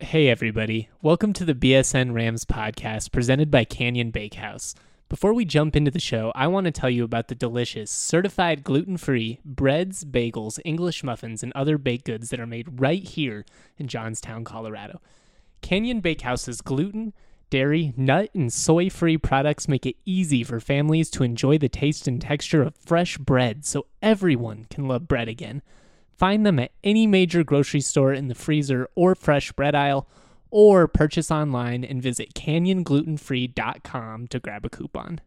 Hey everybody, welcome to the BSN Rams podcast presented by Canyon Bakehouse. Before we jump into the show, I want to tell you about the delicious, certified gluten-free breads, bagels, English muffins, and other baked goods that are made right here in Johnstown, Colorado. Canyon Bakehouse's gluten, dairy, nut, and soy-free products make it easy for families to enjoy the taste and texture of fresh bread so everyone can love bread again. Find them at any major grocery store in the freezer or fresh bread aisle, or purchase online and visit canyonglutenfree.com to grab a coupon.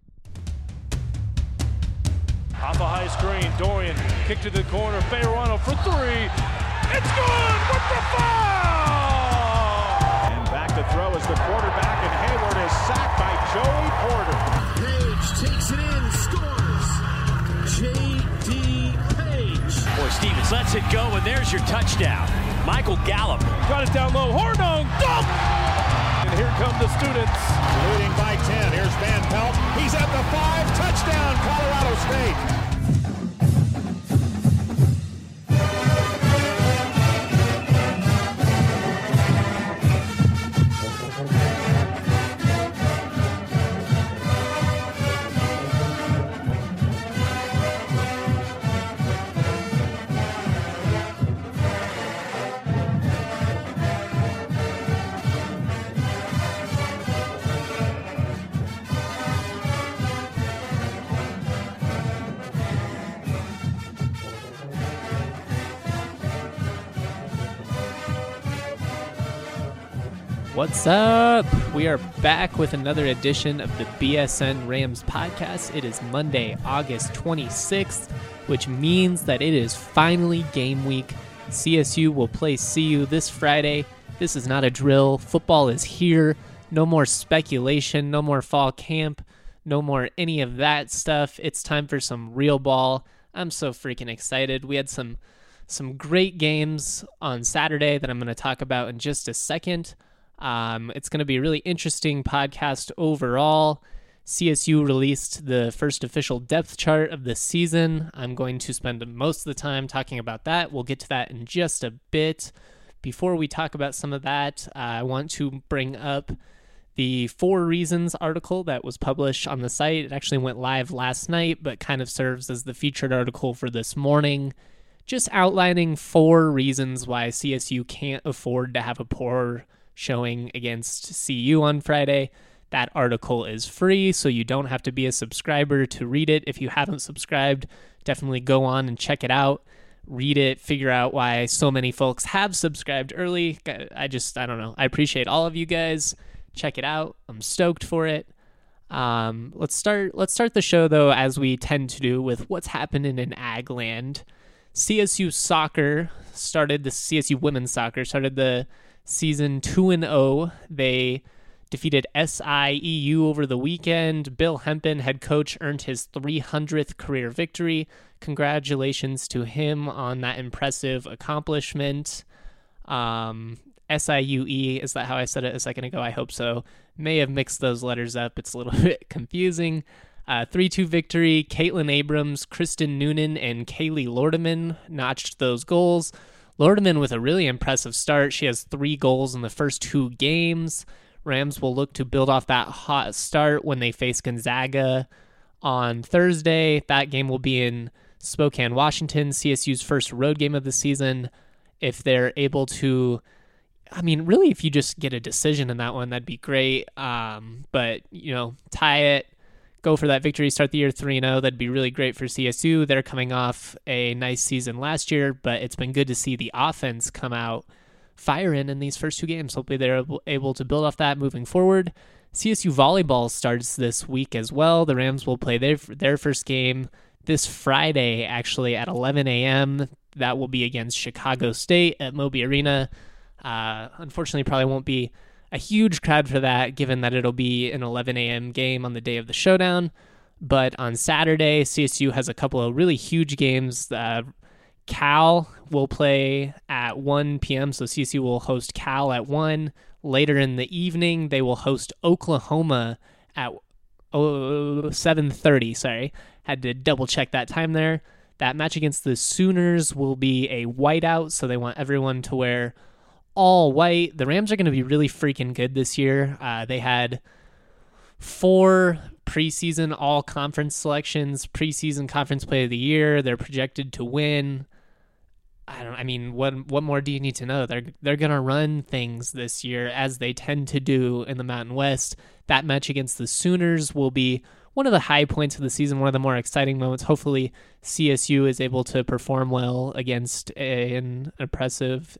Off a high screen, Dorian, kick to the corner, Bayerano for three. It's good with the foul! And back to throw is the quarterback, and Hayward is sacked by Joey Porter. Page takes it in, scores. J.D. Boy, Stevens lets it go, and there's your touchdown. Michael Gallup. Got it down low. Hornung. Dunk! And here come the students. Leading by 10. Here's Van Pelt. He's at the 5. Touchdown, Colorado State. What's up? We are back with another edition of the BSN Rams podcast. It is Monday, August 26th, which means that it is finally game week. CSU will play CU this Friday. This is not a drill. Football is here. No more speculation, no more fall camp, no more any of that stuff. It's time for some real ball. I'm so freaking excited. We had some great games on Saturday that I'm going to talk about in just a second. It's going to be a really interesting podcast overall. CSU released the first official depth chart of the season. I'm going to spend most of the time talking about that. We'll get to that in just a bit. Before we talk about some of that, I want to bring up the 4 Reasons article that was published on the site. It actually went live last night, but kind of serves as the featured article for this morning. Just outlining 4 reasons why CSU can't afford to have a poor showing against CU on Friday. That article is free, so you don't have to be a subscriber to read it. If you haven't subscribed, definitely go on and check it out. Read it, figure out why so many folks have subscribed early. I don't know. I appreciate all of you guys. Check it out. I'm stoked for it. Let's start the show, though, as we tend to do, with what's happening in Ag Land. CSU women's soccer started the season 2-0. They defeated SIEU over the weekend. Bill Hempen, head coach, earned his 300th career victory. Congratulations to him on that impressive accomplishment. SIUE, is that how I said it a second ago? I hope so. May have mixed those letters up. It's a little bit confusing. 3-2 victory. Caitlin Abrams, Kristen Noonan, and Kaylee Lordeman notched those goals. Lordeman with a really impressive start. She has 3 goals in the first 2 games. Rams will look to build off that hot start when they face Gonzaga on Thursday. That game will be in Spokane, Washington, CSU's first road game of the season. If they're able to, really, if you just get a decision in that one, that'd be great. But, tie it. Go for that victory, start the year 3-0. That'd be really great for CSU. They're coming off a nice season last year, but it's been good to see the offense come out firing in these first 2 games. Hopefully they're able to build off that moving forward. CSU volleyball starts this week as well. The Rams will play their first game this Friday, actually, at 11 a.m. That will be against Chicago State at Moby Arena. Unfortunately, probably won't be a huge crowd for that, given that it'll be an 11 a.m. game on the day of the showdown. But on Saturday, CSU has a couple of really huge games. Cal will play at 1 p.m., so CSU will host Cal at 1. Later in the evening, they will host Oklahoma at 7:30. Sorry, had to double-check that time there. That match against the Sooners will be a whiteout, so they want everyone to wear all white. The Rams are going to be really freaking good this year. They had 4 preseason all-conference selections, preseason conference play of the year. They're projected to win. What more do you need to know? They're going to run things this year as they tend to do in the Mountain West. That match against the Sooners will be one of the high points of the season, one of the more exciting moments. Hopefully CSU is able to perform well against an impressive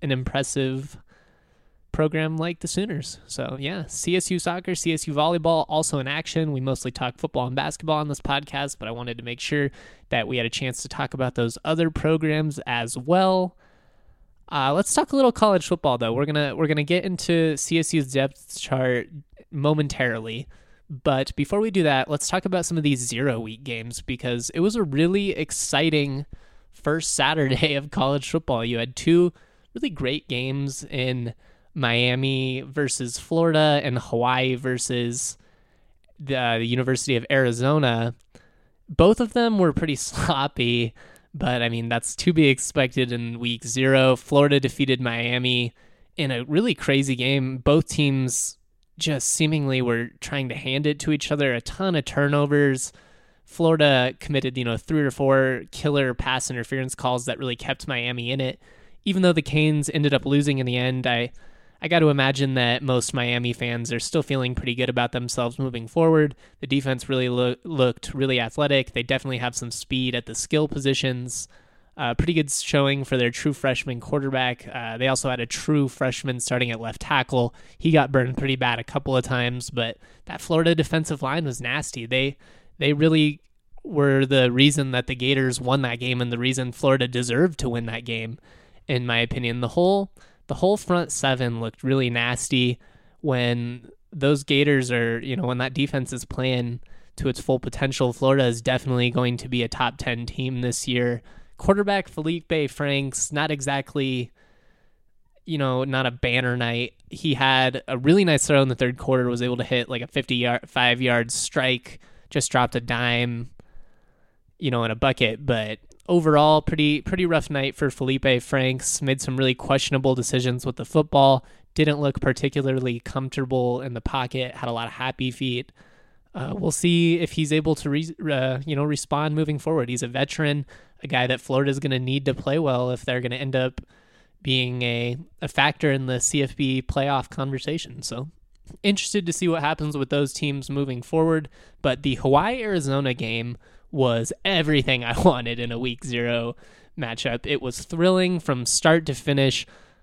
program like the Sooners. So yeah, CSU soccer, CSU volleyball also in action. We mostly talk football and basketball on this podcast, but I wanted to make sure that we had a chance to talk about those other programs as well. Let's talk a little college football though. We're gonna get into CSU's depth chart momentarily, but before we do that, let's talk about some of these 0-week games, because it was a really exciting first Saturday of college football. You had 2 really great games in Miami versus Florida and Hawaii versus the University of Arizona. Both of them were pretty sloppy, but that's to be expected in week 0. Florida defeated Miami in a really crazy game. Both teams just seemingly were trying to hand it to each other. A ton of turnovers. Florida committed, 3 or 4 killer pass interference calls that really kept Miami in it. Even though the Canes ended up losing in the end, I got to imagine that most Miami fans are still feeling pretty good about themselves moving forward. The defense really looked really athletic. They definitely have some speed at the skill positions. Pretty good showing for their true freshman quarterback. They also had a true freshman starting at left tackle. He got burned pretty bad a couple of times, but that Florida defensive line was nasty. They really were the reason that the Gators won that game and the reason Florida deserved to win that game, in my opinion. The whole front 7 looked really nasty when those Gators are, when that defense is playing to its full potential. Florida is definitely going to be a top 10 team this year. Quarterback Felipe Franks, not exactly, not a banner night. He had a really nice throw in the third quarter, was able to hit like a 55-yard strike, just dropped a dime, in a bucket. But overall, pretty rough night for Felipe Franks. Made some really questionable decisions with the football. Didn't look particularly comfortable in the pocket. Had a lot of happy feet. We'll see if he's able to respond moving forward. He's a veteran, a guy that Florida's going to need to play well if they're going to end up being a factor in the CFB playoff conversation. So interested to see what happens with those teams moving forward. But the Hawaii-Arizona game was everything I wanted in a week 0 matchup. It was thrilling from start to finish.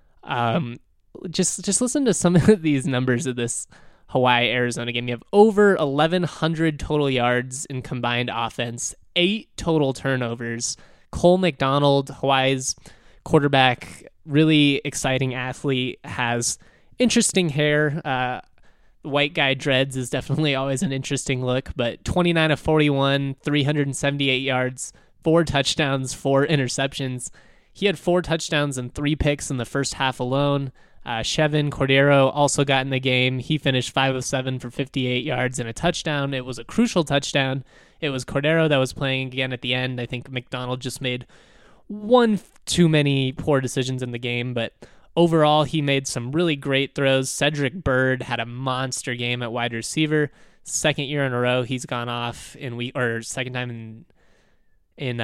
Just listen to some of these numbers of this Hawaii-Arizona game. You have over 1,100 total yards in combined offense, 8 total turnovers. Cole McDonald, Hawaii's quarterback, really exciting athlete, has interesting hair. White guy dreads is definitely always an interesting look, but 29 of 41, 378 yards, 4 touchdowns, 4 interceptions. He had 4 touchdowns and 3 picks in the first half alone. Chevin Cordero also got in the game. He finished 5 of 7 for 58 yards and a touchdown. It was a crucial touchdown. It was Cordero that was playing again at the end. I think McDonald just made one too many poor decisions in the game, but overall, he made some really great throws. Cedric Byrd had a monster game at wide receiver. Second year in a row, he's gone off second time in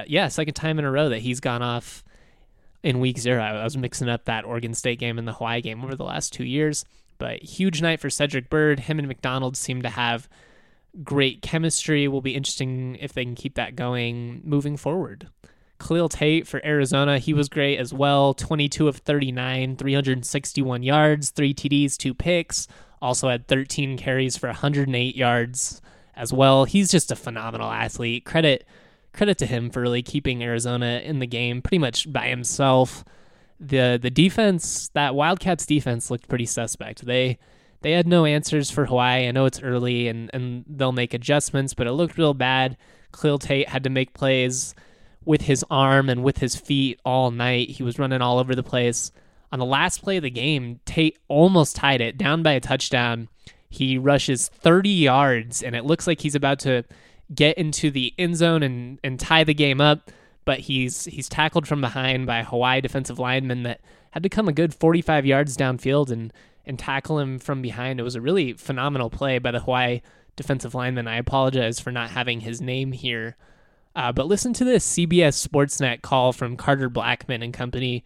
a row that he's gone off in week 0. I was mixing up that Oregon State game and the Hawaii game over the last 2 years, but huge night for Cedric Byrd. Him and McDonald seem to have great chemistry. Will be interesting if they can keep that going moving forward. Khalil Tate for Arizona, he was great as well. 22 of 39, 361 yards, 3 TDs, 2 picks. Also had 13 carries for 108 yards as well. He's just a phenomenal athlete. Credit to him for really keeping Arizona in the game pretty much by himself. The defense, that Wildcats defense, looked pretty suspect. They had no answers for Hawaii. I know it's early and they'll make adjustments, but it looked real bad. Khalil Tate had to make plays with his arm and with his feet all night. He was running all over the place. On the last play of the game, Tate almost tied it, down by a touchdown. He rushes 30 yards, and it looks like he's about to get into the end zone and tie the game up, but he's tackled from behind by a Hawaii defensive lineman that had to come a good 45 yards downfield and tackle him from behind. It was a really phenomenal play by the Hawaii defensive lineman. I apologize for not having his name here. But listen to this CBS Sportsnet call from Carter Blackburn and company,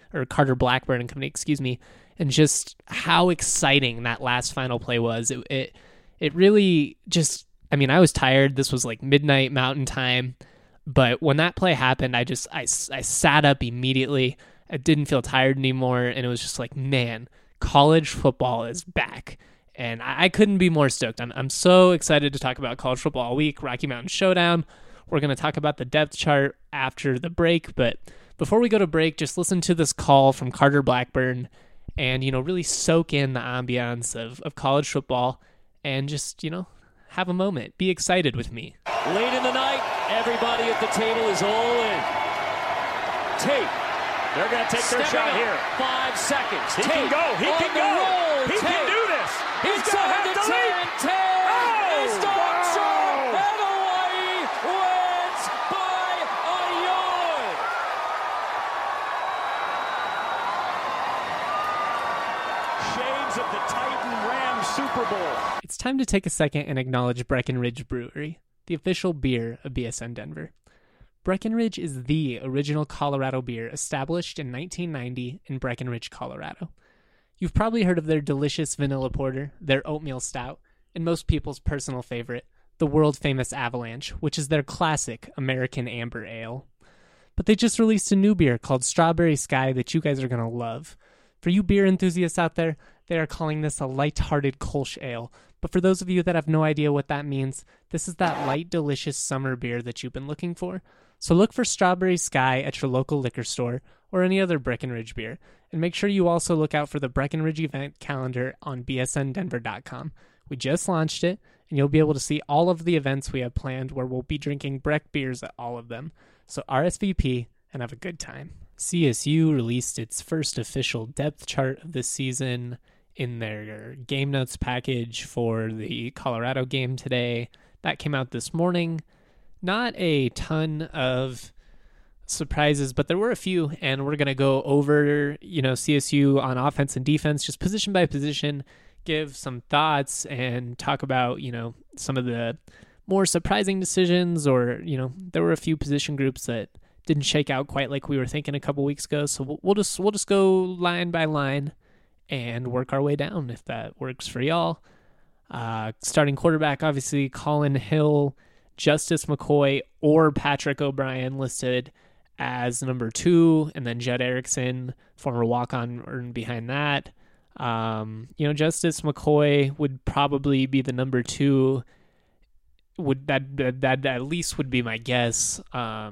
and just how exciting that last final play was. It really just, I mean, I was tired. This was like midnight Mountain Time, but when that play happened, I sat up immediately. I didn't feel tired anymore, and it was just like, man, college football is back. And I couldn't be more stoked. I'm so excited to talk about college football all week, Rocky Mountain Showdown. We're going to talk about the depth chart after the break, but before we go to break, just listen to this call from Carter Blackburn and, really soak in the ambiance of college football and just, have a moment. Be excited with me. Late in the night, everybody at the table is all in. Tate. They're going to take their shot here. 5 seconds. He can go. He can go. He can do this. He's going to have to lead. It's Archer, and Hawaii wins by a yard. Shades of the Titan Rams Super Bowl. It's time to take a second and acknowledge Breckenridge Brewery, the official beer of BSN Denver. Breckenridge is the original Colorado beer established in 1990 in Breckenridge, Colorado. You've probably heard of their delicious vanilla porter, their oatmeal stout, and most people's personal favorite, the world-famous Avalanche, which is their classic American Amber Ale. But they just released a new beer called Strawberry Sky that you guys are going to love. For you beer enthusiasts out there, they are calling this a light-hearted Kolsch Ale. But for those of you that have no idea what that means, this is that light, delicious summer beer that you've been looking for. So look for Strawberry Sky at your local liquor store or any other Breckenridge beer. And make sure you also look out for the Breckenridge event calendar on bsndenver.com. We just launched it, and you'll be able to see all of the events we have planned where we'll be drinking Breck beers at all of them. So RSVP and have a good time. CSU released its first official depth chart of this season in their game notes package for the Colorado game today. That came out this morning. Not a ton of surprises, but there were a few, and we're going to go over, CSU on offense and defense, just position by position, give some thoughts and talk about, some of the more surprising decisions or, there were a few position groups that didn't shake out quite like we were thinking a couple weeks ago. So we'll just go line by line and work our way down if that works for y'all. Starting quarterback, obviously, Colin Hill, Justice McCoy, or Patrick O'Brien listed as number 2, and then Judd Erickson, former walk-on, behind that. Justice McCoy would probably be the number 2. That at least would be my guess.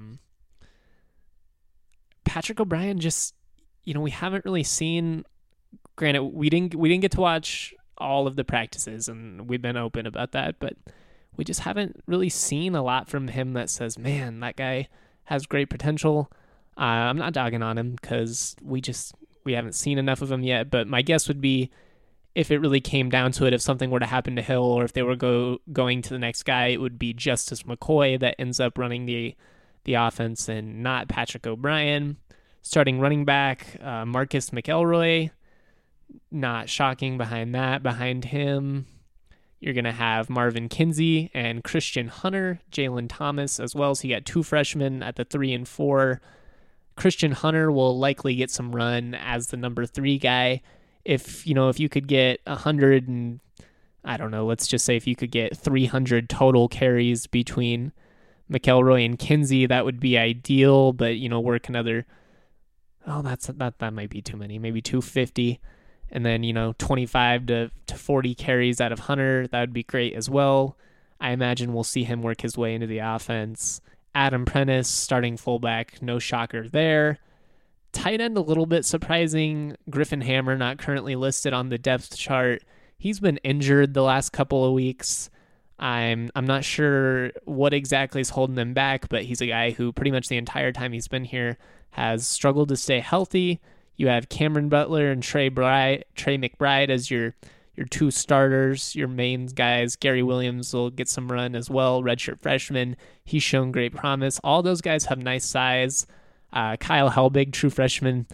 Patrick O'Brien, just we haven't really seen. Granted, we didn't get to watch all of the practices, and we've been open about that, but we just haven't really seen a lot from him that says, man, that guy has great potential. I'm not dogging on him because we haven't seen enough of him yet, but my guess would be if it really came down to it, if something were to happen to Hill or if they were going to the next guy, it would be Justice McCoy that ends up running the offense and not Patrick O'Brien. Starting running back, Marcus McElroy, not shocking behind that. Behind him, you're going to have Marvin Kinsey and Christian Hunter, Jalen Thomas as well. So you got 2 freshmen at the 3 and 4. Christian Hunter will likely get some run as the number 3 guy. If you could get 100 and, I don't know, let's just say if you could get 300 total carries between McElroy and Kinsey, that would be ideal, but, work another, that might be too many, maybe 250. And then, 25 to 40 carries out of Hunter, that would be great as well. I imagine we'll see him work his way into the offense. Adam Prentice, starting fullback, no shocker there. Tight end, a little bit surprising. Griffin Hammer, not currently listed on the depth chart. He's been injured the last couple of weeks. I'm not sure what exactly is holding him back, but he's a guy who pretty much the entire time he's been here has struggled to stay healthy. You have Cameron Butler and Trey McBride as your 2 starters, your main guys. Gary Williams will get some run as well, redshirt freshman. He's shown great promise. All those guys have nice size. Kyle Helbig, true freshman,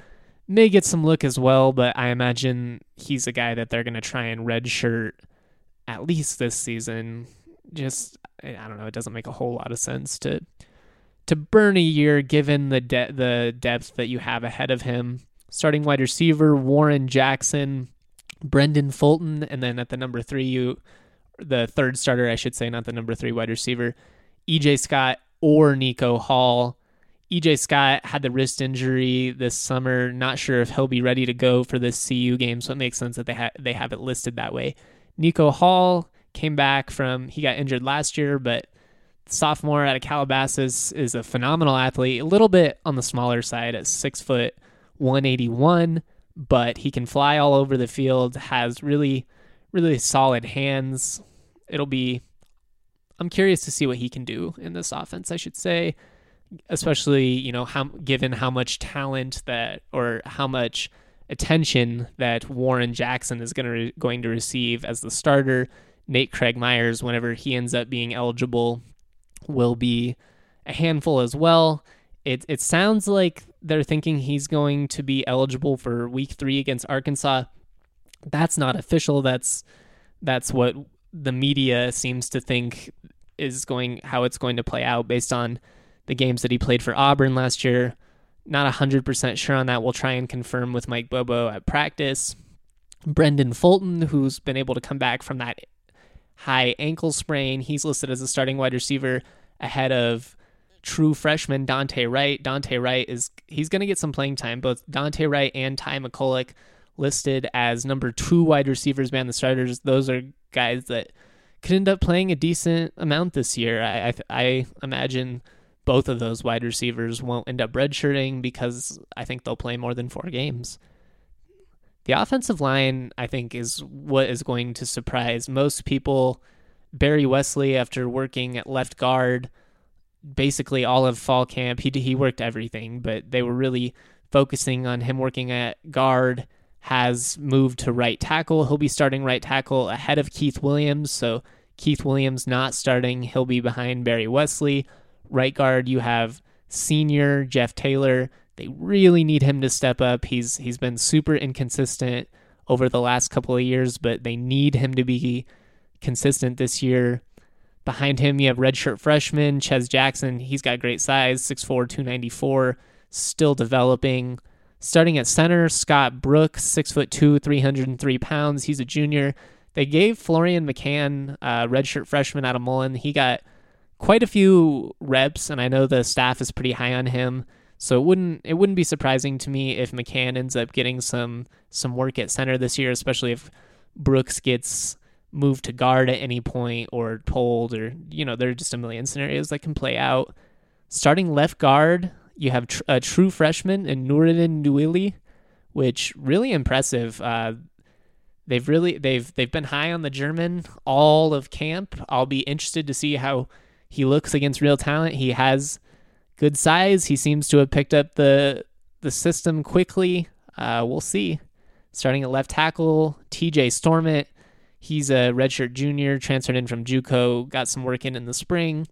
may get some look as well, but I imagine he's a guy that they're going to try and redshirt at least this season. Just, I don't know, it doesn't make a whole lot of sense to burn a year given the depth that you have ahead of him. Starting wide receiver, Warren Jackson, Brendan Fulton, and then at the number 3, the third starter, I should say, not the number 3 wide receiver, EJ Scott or Nico Hall. EJ Scott had the wrist injury this summer. Not sure if he'll be ready to go for this CU game, so it makes sense that they have it listed that way. Nico Hall came back he got injured last year, but sophomore out of Calabasas is a phenomenal athlete, a little bit on the smaller side at 6 foot 181, but he can fly all over the field, has really, really solid hands. I'm curious to see what he can do in this offense, I should say, especially, given how much talent or how much attention that Warren Jackson is going to receive as the starter. Nate Craig Myers, whenever he ends up being eligible, will be a handful as well. It sounds like they're thinking he's going to be eligible for week 3 against Arkansas. That's not official. That's what the media seems to think how it's going to play out based on the games that he played for Auburn last year. Not 100% sure on that. We'll try and confirm with Mike Bobo at practice. Brendan Fulton, who's been able to come back from that high ankle sprain, he's listed as a starting wide receiver ahead of true freshman Dante Wright. Dante Wright he's going to get some playing time. Both Dante Wright and Ty McCulloch listed as number 2 wide receivers behind the starters. Those are guys that could end up playing a decent amount this year. I imagine both of those wide receivers won't end up redshirting because I think they'll play more than 4 games. The offensive line, I think, is what is going to surprise most people. Barry Wesley, after working at left guard basically all of fall camp, he worked everything, but they were really focusing on him working at guard, has moved to right tackle. He'll be starting right tackle ahead of Keith Williams, so Keith Williams not starting. He'll be behind Barry Wesley. Right guard, you have senior Jeff Taylor. They really need him to step up. He's been super inconsistent over the last couple of years, but they need him to be consistent this year. Behind him, you have redshirt freshman Ches Jackson. He's got great size, 6'4", 294, still developing. Starting at center, Scott Brooks, 6'2", 303 pounds. He's a junior. They gave Florian McCann, redshirt freshman out of Mullen. He got quite a few reps, and I know the staff is pretty high on him. So it wouldn't be surprising to me if McCann ends up getting some work at center this year, especially if Brooks gets moved to guard at any point or pulled, or there are just a million scenarios that can play out. Starting left guard, you have a true freshman in Nuruddin Nouili, which really impressive. They've been high on the German all of camp. I'll be interested to see how he looks against real talent. He has good size. He seems to have picked up the system quickly. We'll see. Starting at left tackle, TJ Stormont. He's a redshirt junior, transferred in from JUCO, got some work in the spring.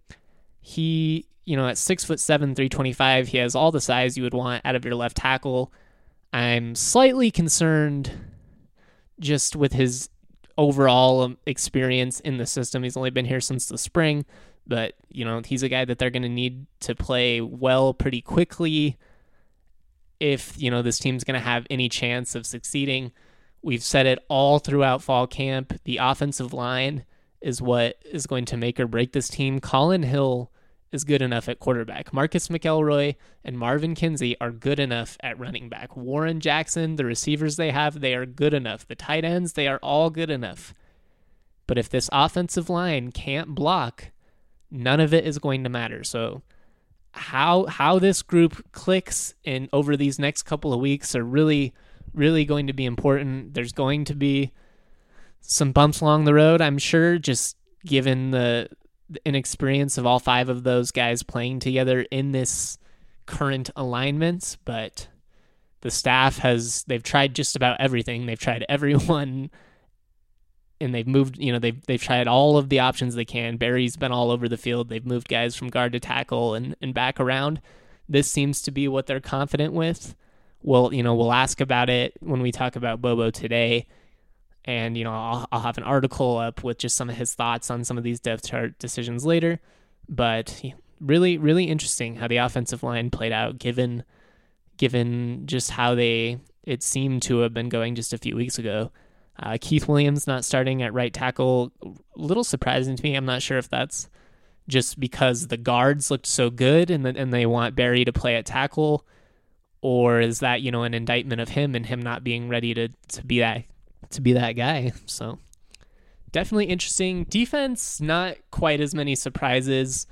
He, at 6'7", 325, he has all the size you would want out of your left tackle. I'm slightly concerned just with his overall experience in the system. He's only been here since the spring, but, he's a guy that they're going to need to play well pretty quickly if, this team's going to have any chance of succeeding. We've said it all throughout fall camp. The offensive line is what is going to make or break this team. Colin Hill is good enough at quarterback. Marcus McElroy and Marvin Kinsey are good enough at running back. Warren Jackson, the receivers they have, they are good enough. The tight ends, they are all good enough. But if this offensive line can't block, none of it is going to matter. So how this group clicks over these next couple of weeks are really going to be important. There's going to be some bumps along the road, I'm sure, just given the inexperience of all 5 of those guys playing together in this current alignment. But the staff they've tried just about everything. They've tried everyone, and they've moved, they've tried all of the options they can. Barry's been all over the field. They've moved guys from guard to tackle and back around. This seems to be what they're confident with. we'll ask about it when we talk about Bobo today. And, I'll have an article up with just some of his thoughts on some of these depth chart decisions later. But really, really interesting how the offensive line played out, given just how it seemed to have been going just a few weeks ago. Keith Williams not starting at right tackle, a little surprising to me. I'm not sure if that's just because the guards looked so good and they want Barry to play at tackle, or is that, an indictment of him and him not being ready to be that guy. So definitely interesting. Defense, not quite as many surprises.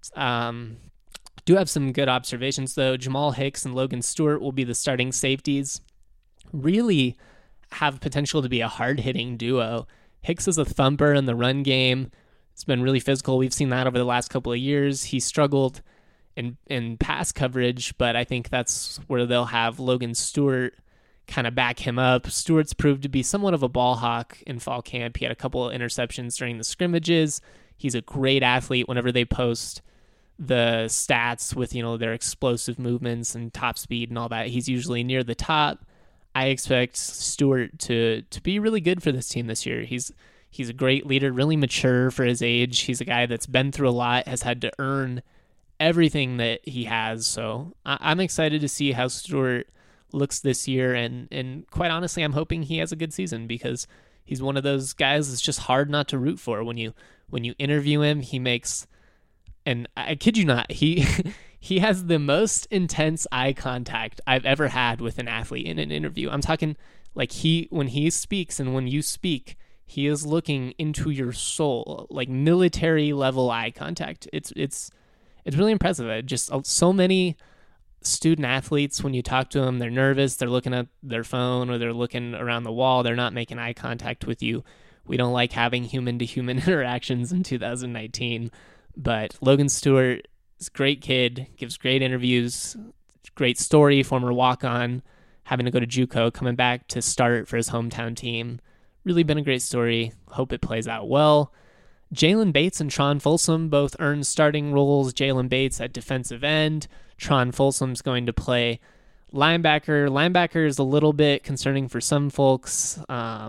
Do have some good observations though. Jamal Hicks and Logan Stewart will be the starting safeties. Really have potential to be a hard-hitting duo. Hicks is a thumper in the run game. It's been really physical. We've seen that over the last couple of years. He struggled in pass coverage, but I think that's where they'll have Logan Stewart kind of back him up. Stewart's proved to be somewhat of a ball hawk in fall camp. He had a couple of interceptions during the scrimmages. He's a great athlete. Whenever they post the stats with, their explosive movements and top speed and all that, he's usually near the top. I expect Stewart to be really good for this team this year. He's a great leader, really mature for his age. He's a guy that's been through a lot, has had to earn everything that he has. So I'm excited to see how Stewart looks this year, and quite honestly, I'm hoping he has a good season, because he's one of those guys that's just hard not to root for. When you interview him, he makes, and I kid you not, he has the most intense eye contact I've ever had with an athlete in an interview. I'm talking like when he speaks and when you speak, he is looking into your soul, like military level eye contact. It's really impressive. Just so many student athletes, when you talk to them, they're nervous, they're looking at their phone or they're looking around the wall, they're not making eye contact with you. We don't like having human-to-human interactions in 2019, but Logan Stewart is a great kid, gives great interviews, great story, former walk-on, having to go to JUCO, coming back to start for his hometown team. Really been a great story. Hope it plays out well. Jalen Bates and Tron Folsom both earned starting roles. Jalen Bates at defensive end. Tron Folsom's going to play linebacker. Linebacker is a little bit concerning for some folks,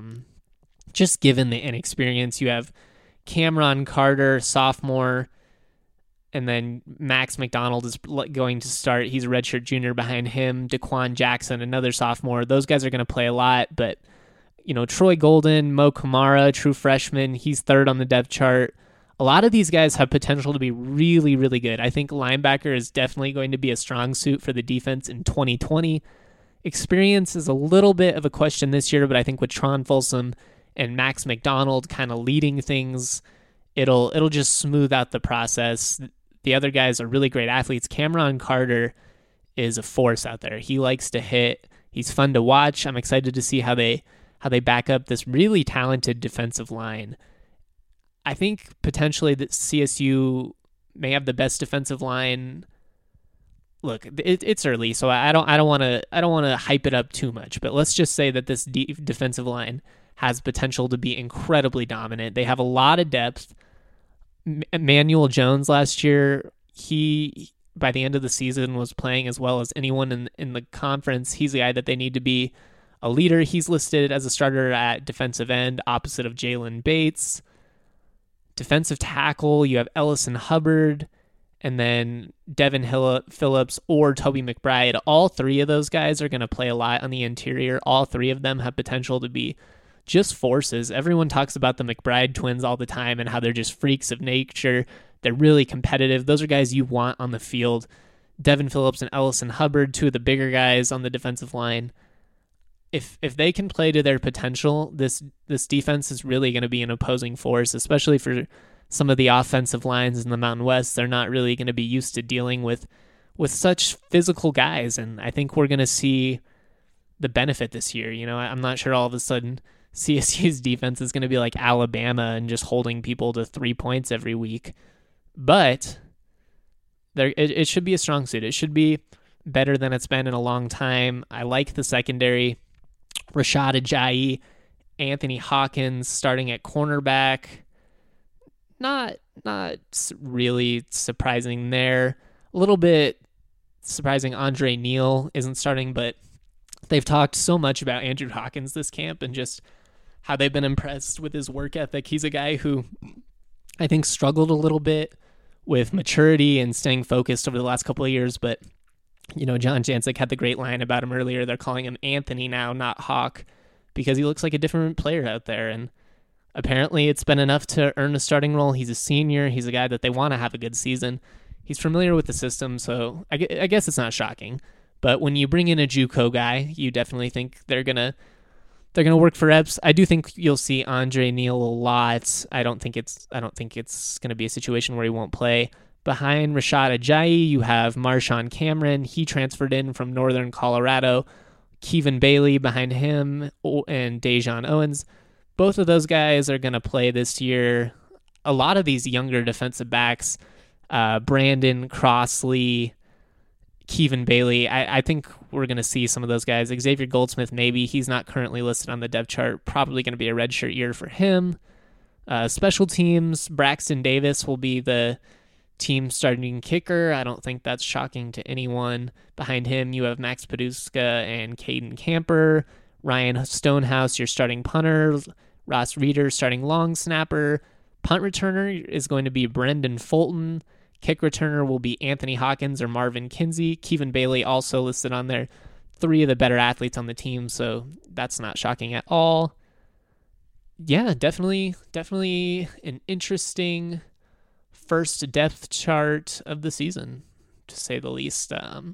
just given the inexperience. You have Cameron Carter, sophomore, and then Max McDonald is going to start. He's a redshirt junior behind him. Daquan Jackson, another sophomore. Those guys are going to play a lot, but Troy Golden, Mo Kamara, true freshman, he's third on the depth chart. A lot of these guys have potential to be really, really good. I think linebacker is definitely going to be a strong suit for the defense in 2020. Experience is a little bit of a question this year, but I think with Tron Folsom and Max McDonald kind of leading things, it'll just smooth out the process. The other guys are really great athletes. Cameron Carter is a force out there. He likes to hit. He's fun to watch. I'm excited to see how they back up this really talented defensive line. I think potentially that CSU may have the best defensive line. Look, it's early, so I don't want to hype it up too much. But let's just say that this defensive line has potential to be incredibly dominant. They have a lot of depth. Emmanuel Jones last year, he by the end of the season was playing as well as anyone in the conference. He's the guy that they need to be a leader. He's listed as a starter at defensive end, opposite of Jalen Bates. Defensive tackle, you have Ellison Hubbard, and then Devin Phillips or Toby McBride. All three of those guys are going to play a lot on the interior. All three of them have potential to be just forces. Everyone talks about the McBride twins all the time and how they're just freaks of nature. They're really competitive. Those are guys you want on the field. Devin Phillips and Ellison Hubbard, two of the bigger guys on the defensive line. If they can play to their potential, this defense is really going to be an opposing force, especially for some of the offensive lines in the Mountain West. They're not really going to be used to dealing with such physical guys, and I think we're going to see the benefit this year. I'm not sure all of a sudden CSU's defense is going to be like Alabama and just holding people to 3 points every week, but it should be a strong suit. It should be better than it's been in a long time. I like the secondary. Rashad Ajayi, Anthony Hawkins starting at cornerback. Not really surprising there. A little bit surprising Andre Neal isn't starting, but they've talked so much about Andrew Hawkins this camp and just how they've been impressed with his work ethic. He's a guy who I think struggled a little bit with maturity and staying focused over the last couple of years, but John Jancic had the great line about him earlier. They're calling him Anthony now, not Hawk, because he looks like a different player out there. And apparently it's been enough to earn a starting role. He's a senior. He's a guy that they want to have a good season. He's familiar with the system, so I guess it's not shocking. But when you bring in a JUCO guy, you definitely think they're gonna work for reps. I do think you'll see Andre Neal a lot. I don't think it's gonna be a situation where he won't play. Behind Rashad Ajayi, you have Marshawn Cameron. He transferred in from Northern Colorado. Kevin Bailey behind him, and Dejon Owens. Both of those guys are going to play this year. A lot of these younger defensive backs, Brandon Crossley, Kevin Bailey, I think we're going to see some of those guys. Xavier Goldsmith, maybe. He's not currently listed on the depth chart. Probably going to be a redshirt year for him. Special teams, Braxton Davis will be the team starting kicker. I don't think that's shocking to anyone. Behind him, you have Max Paduska and Caden Camper. Ryan Stonehouse, your starting punter. Ross Reeder, starting long snapper. Punt returner is going to be Brendan Fulton. Kick returner will be Anthony Hawkins or Marvin Kinsey. Kevin Bailey also listed on there. 3 of the better athletes on the team, so that's not shocking at all. Yeah, definitely an interesting first depth chart of the season, to say the least.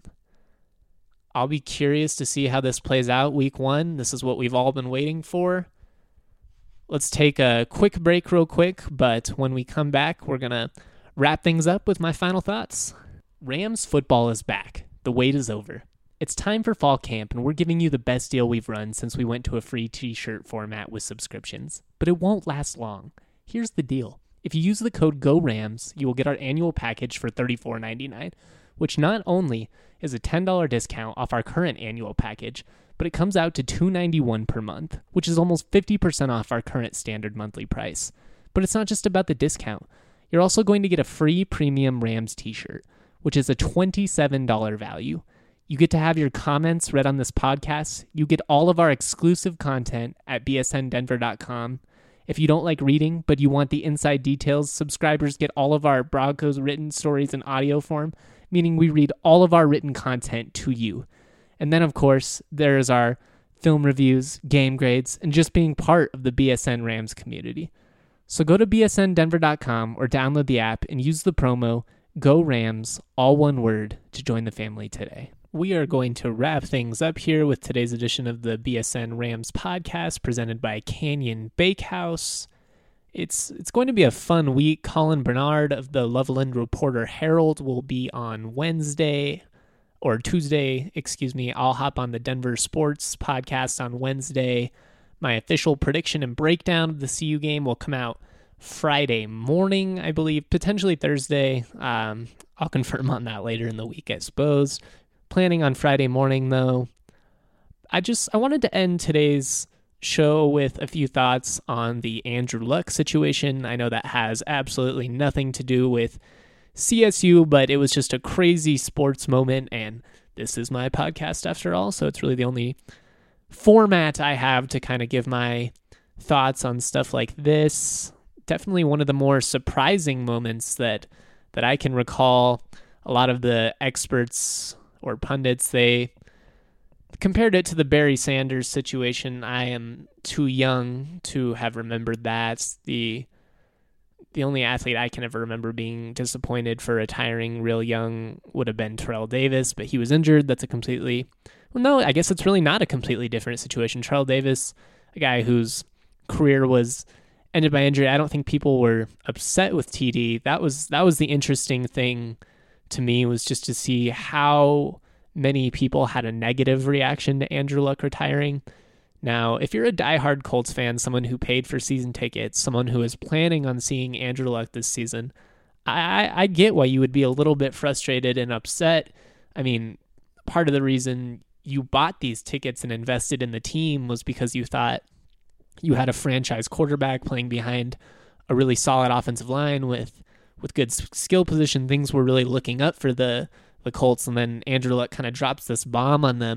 I'll be curious to see how this plays out week 1. This is what we've all been waiting for. Let's take a quick break real quick, but when we come back, we're going to wrap things up with my final thoughts. Rams football is back. The wait is over. It's time for fall camp, and we're giving you the best deal we've run since we went to a free t-shirt format with subscriptions. But it won't last long. Here's the deal. If you use the code GORAMS, you will get our annual package for $34.99, which not only is a $10 discount off our current annual package, but it comes out to $291 per month, which is almost 50% off our current standard monthly price. But it's not just about the discount. You're also going to get a free premium Rams t-shirt, which is a $27 value. You get to have your comments read on this podcast. You get all of our exclusive content at bsndenver.com. If you don't like reading, but you want the inside details, subscribers get all of our Broncos written stories in audio form, meaning we read all of our written content to you. And then, of course, there's our film reviews, game grades, and just being part of the BSN Rams community. So go to bsndenver.com or download the app and use the promo GORAMS, all one word, to join the family today. We are going to wrap things up here with today's edition of the BSN Rams podcast presented by Canyon Bakehouse. It's going to be a fun week. Colin Bernard of the Loveland Reporter Herald will be on Tuesday. I'll hop on the Denver Sports podcast on Wednesday. My official prediction and breakdown of the CU game will come out Friday morning, I believe, potentially Thursday. I'll confirm on that later in the week, I suppose. Planning on Friday morning, though. I wanted to end today's show with a few thoughts on the Andrew Luck situation. I know that has absolutely nothing to do with CSU, but it was just a crazy sports moment, and this is my podcast after all, so it's really the only format I have to kind of give my thoughts on stuff like this. Definitely one of the more surprising moments that I can recall. A lot of the experts or pundits, they compared it to the Barry Sanders situation. I am too young to have remembered that. The only athlete I can ever remember being disappointed for retiring real young would have been Terrell Davis, but he was injured. That's I guess it's really not a completely different situation. Terrell Davis, a guy whose career was ended by injury. I don't think people were upset with TD. That was the interesting thing to me, was just to see how many people had a negative reaction to Andrew Luck retiring. Now, if you're a diehard Colts fan, someone who paid for season tickets, someone who is planning on seeing Andrew Luck this season, I get why you would be a little bit frustrated and upset. I mean, part of the reason you bought these tickets and invested in the team was because you thought you had a franchise quarterback playing behind a really solid offensive line with good skill position. Things were really looking up for the Colts, and then Andrew Luck kind of drops this bomb on them.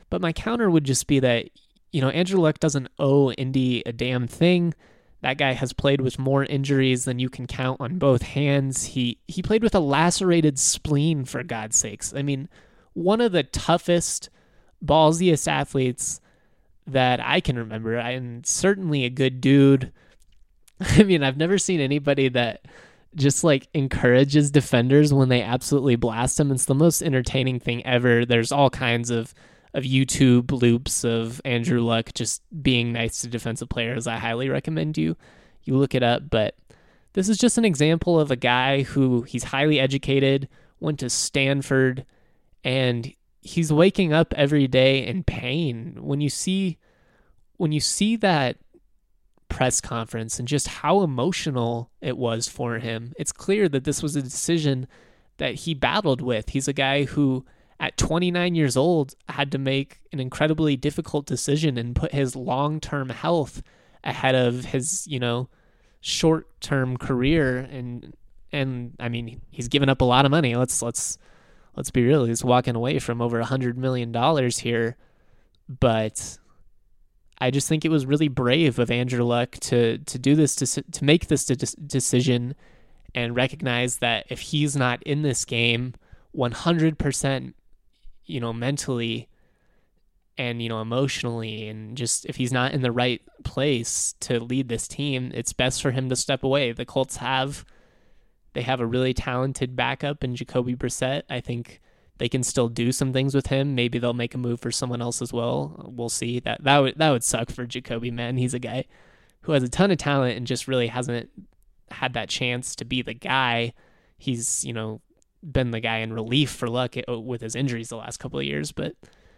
But my counter would just be that, Andrew Luck doesn't owe Indy a damn thing. That guy has played with more injuries than you can count on both hands. He played with a lacerated spleen, for God's sakes. I mean, one of the toughest, ballsiest athletes that I can remember, and certainly a good dude. I mean, I've never seen anybody that just encourages defenders when they absolutely blast them. It's the most entertaining thing ever. There's all kinds of YouTube loops of Andrew Luck just being nice to defensive players. I highly recommend you look it up. But this is just an example of a guy who he's highly educated, went to Stanford, and he's waking up every day in pain. When you see that press conference and just how emotional it was for him, it's clear that this was a decision that he battled with. He's a guy who at 29 years old had to make an incredibly difficult decision and put his long-term health ahead of his, short-term career. And I mean, he's given up a lot of money. Let's be real. He's walking away from over $100 million here. But I just think it was really brave of Andrew Luck to do this, to make this decision and recognize that if he's not in this game 100%, mentally and, emotionally, and just if he's not in the right place to lead this team, it's best for him to step away. The Colts have a really talented backup in Jacoby Brissett. I think they can still do some things with him. Maybe they'll make a move for someone else as well. We'll see. That would suck for Jacoby, man. He's a guy who has a ton of talent and just really hasn't had that chance to be the guy. He's, been the guy in relief for Luck with his injuries the last couple of years, but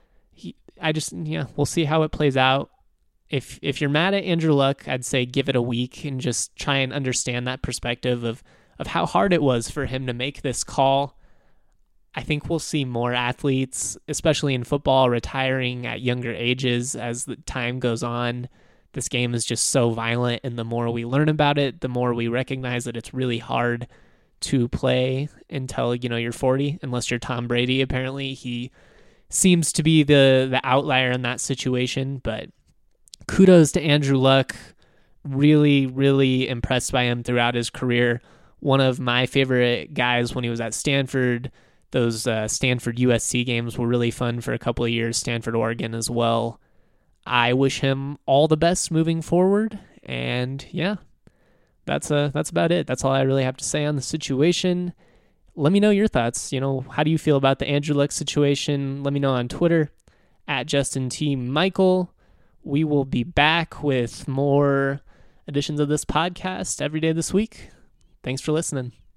we'll see how it plays out. If you're mad at Andrew Luck, I'd say give it a week and just try and understand that perspective of how hard it was for him to make this call. I think we'll see more athletes, especially in football, retiring at younger ages as the time goes on. This game is just so violent, and the more we learn about it, the more we recognize that it's really hard to play until you're 40, unless you're Tom Brady. Apparently he seems to be the outlier in that situation, but kudos to Andrew Luck. Really, really impressed by him throughout his career. One of my favorite guys when he was at Stanford. Those Stanford USC games were really fun for a couple of years. Stanford, Oregon as well. I wish him all the best moving forward, and yeah, that's about it. That's all I really have to say on the situation. Let me know your thoughts. How do you feel about the Andrew Luck situation? Let me know on Twitter at Justin T. Michael. We will be back with more editions of this podcast every day this week. Thanks for listening.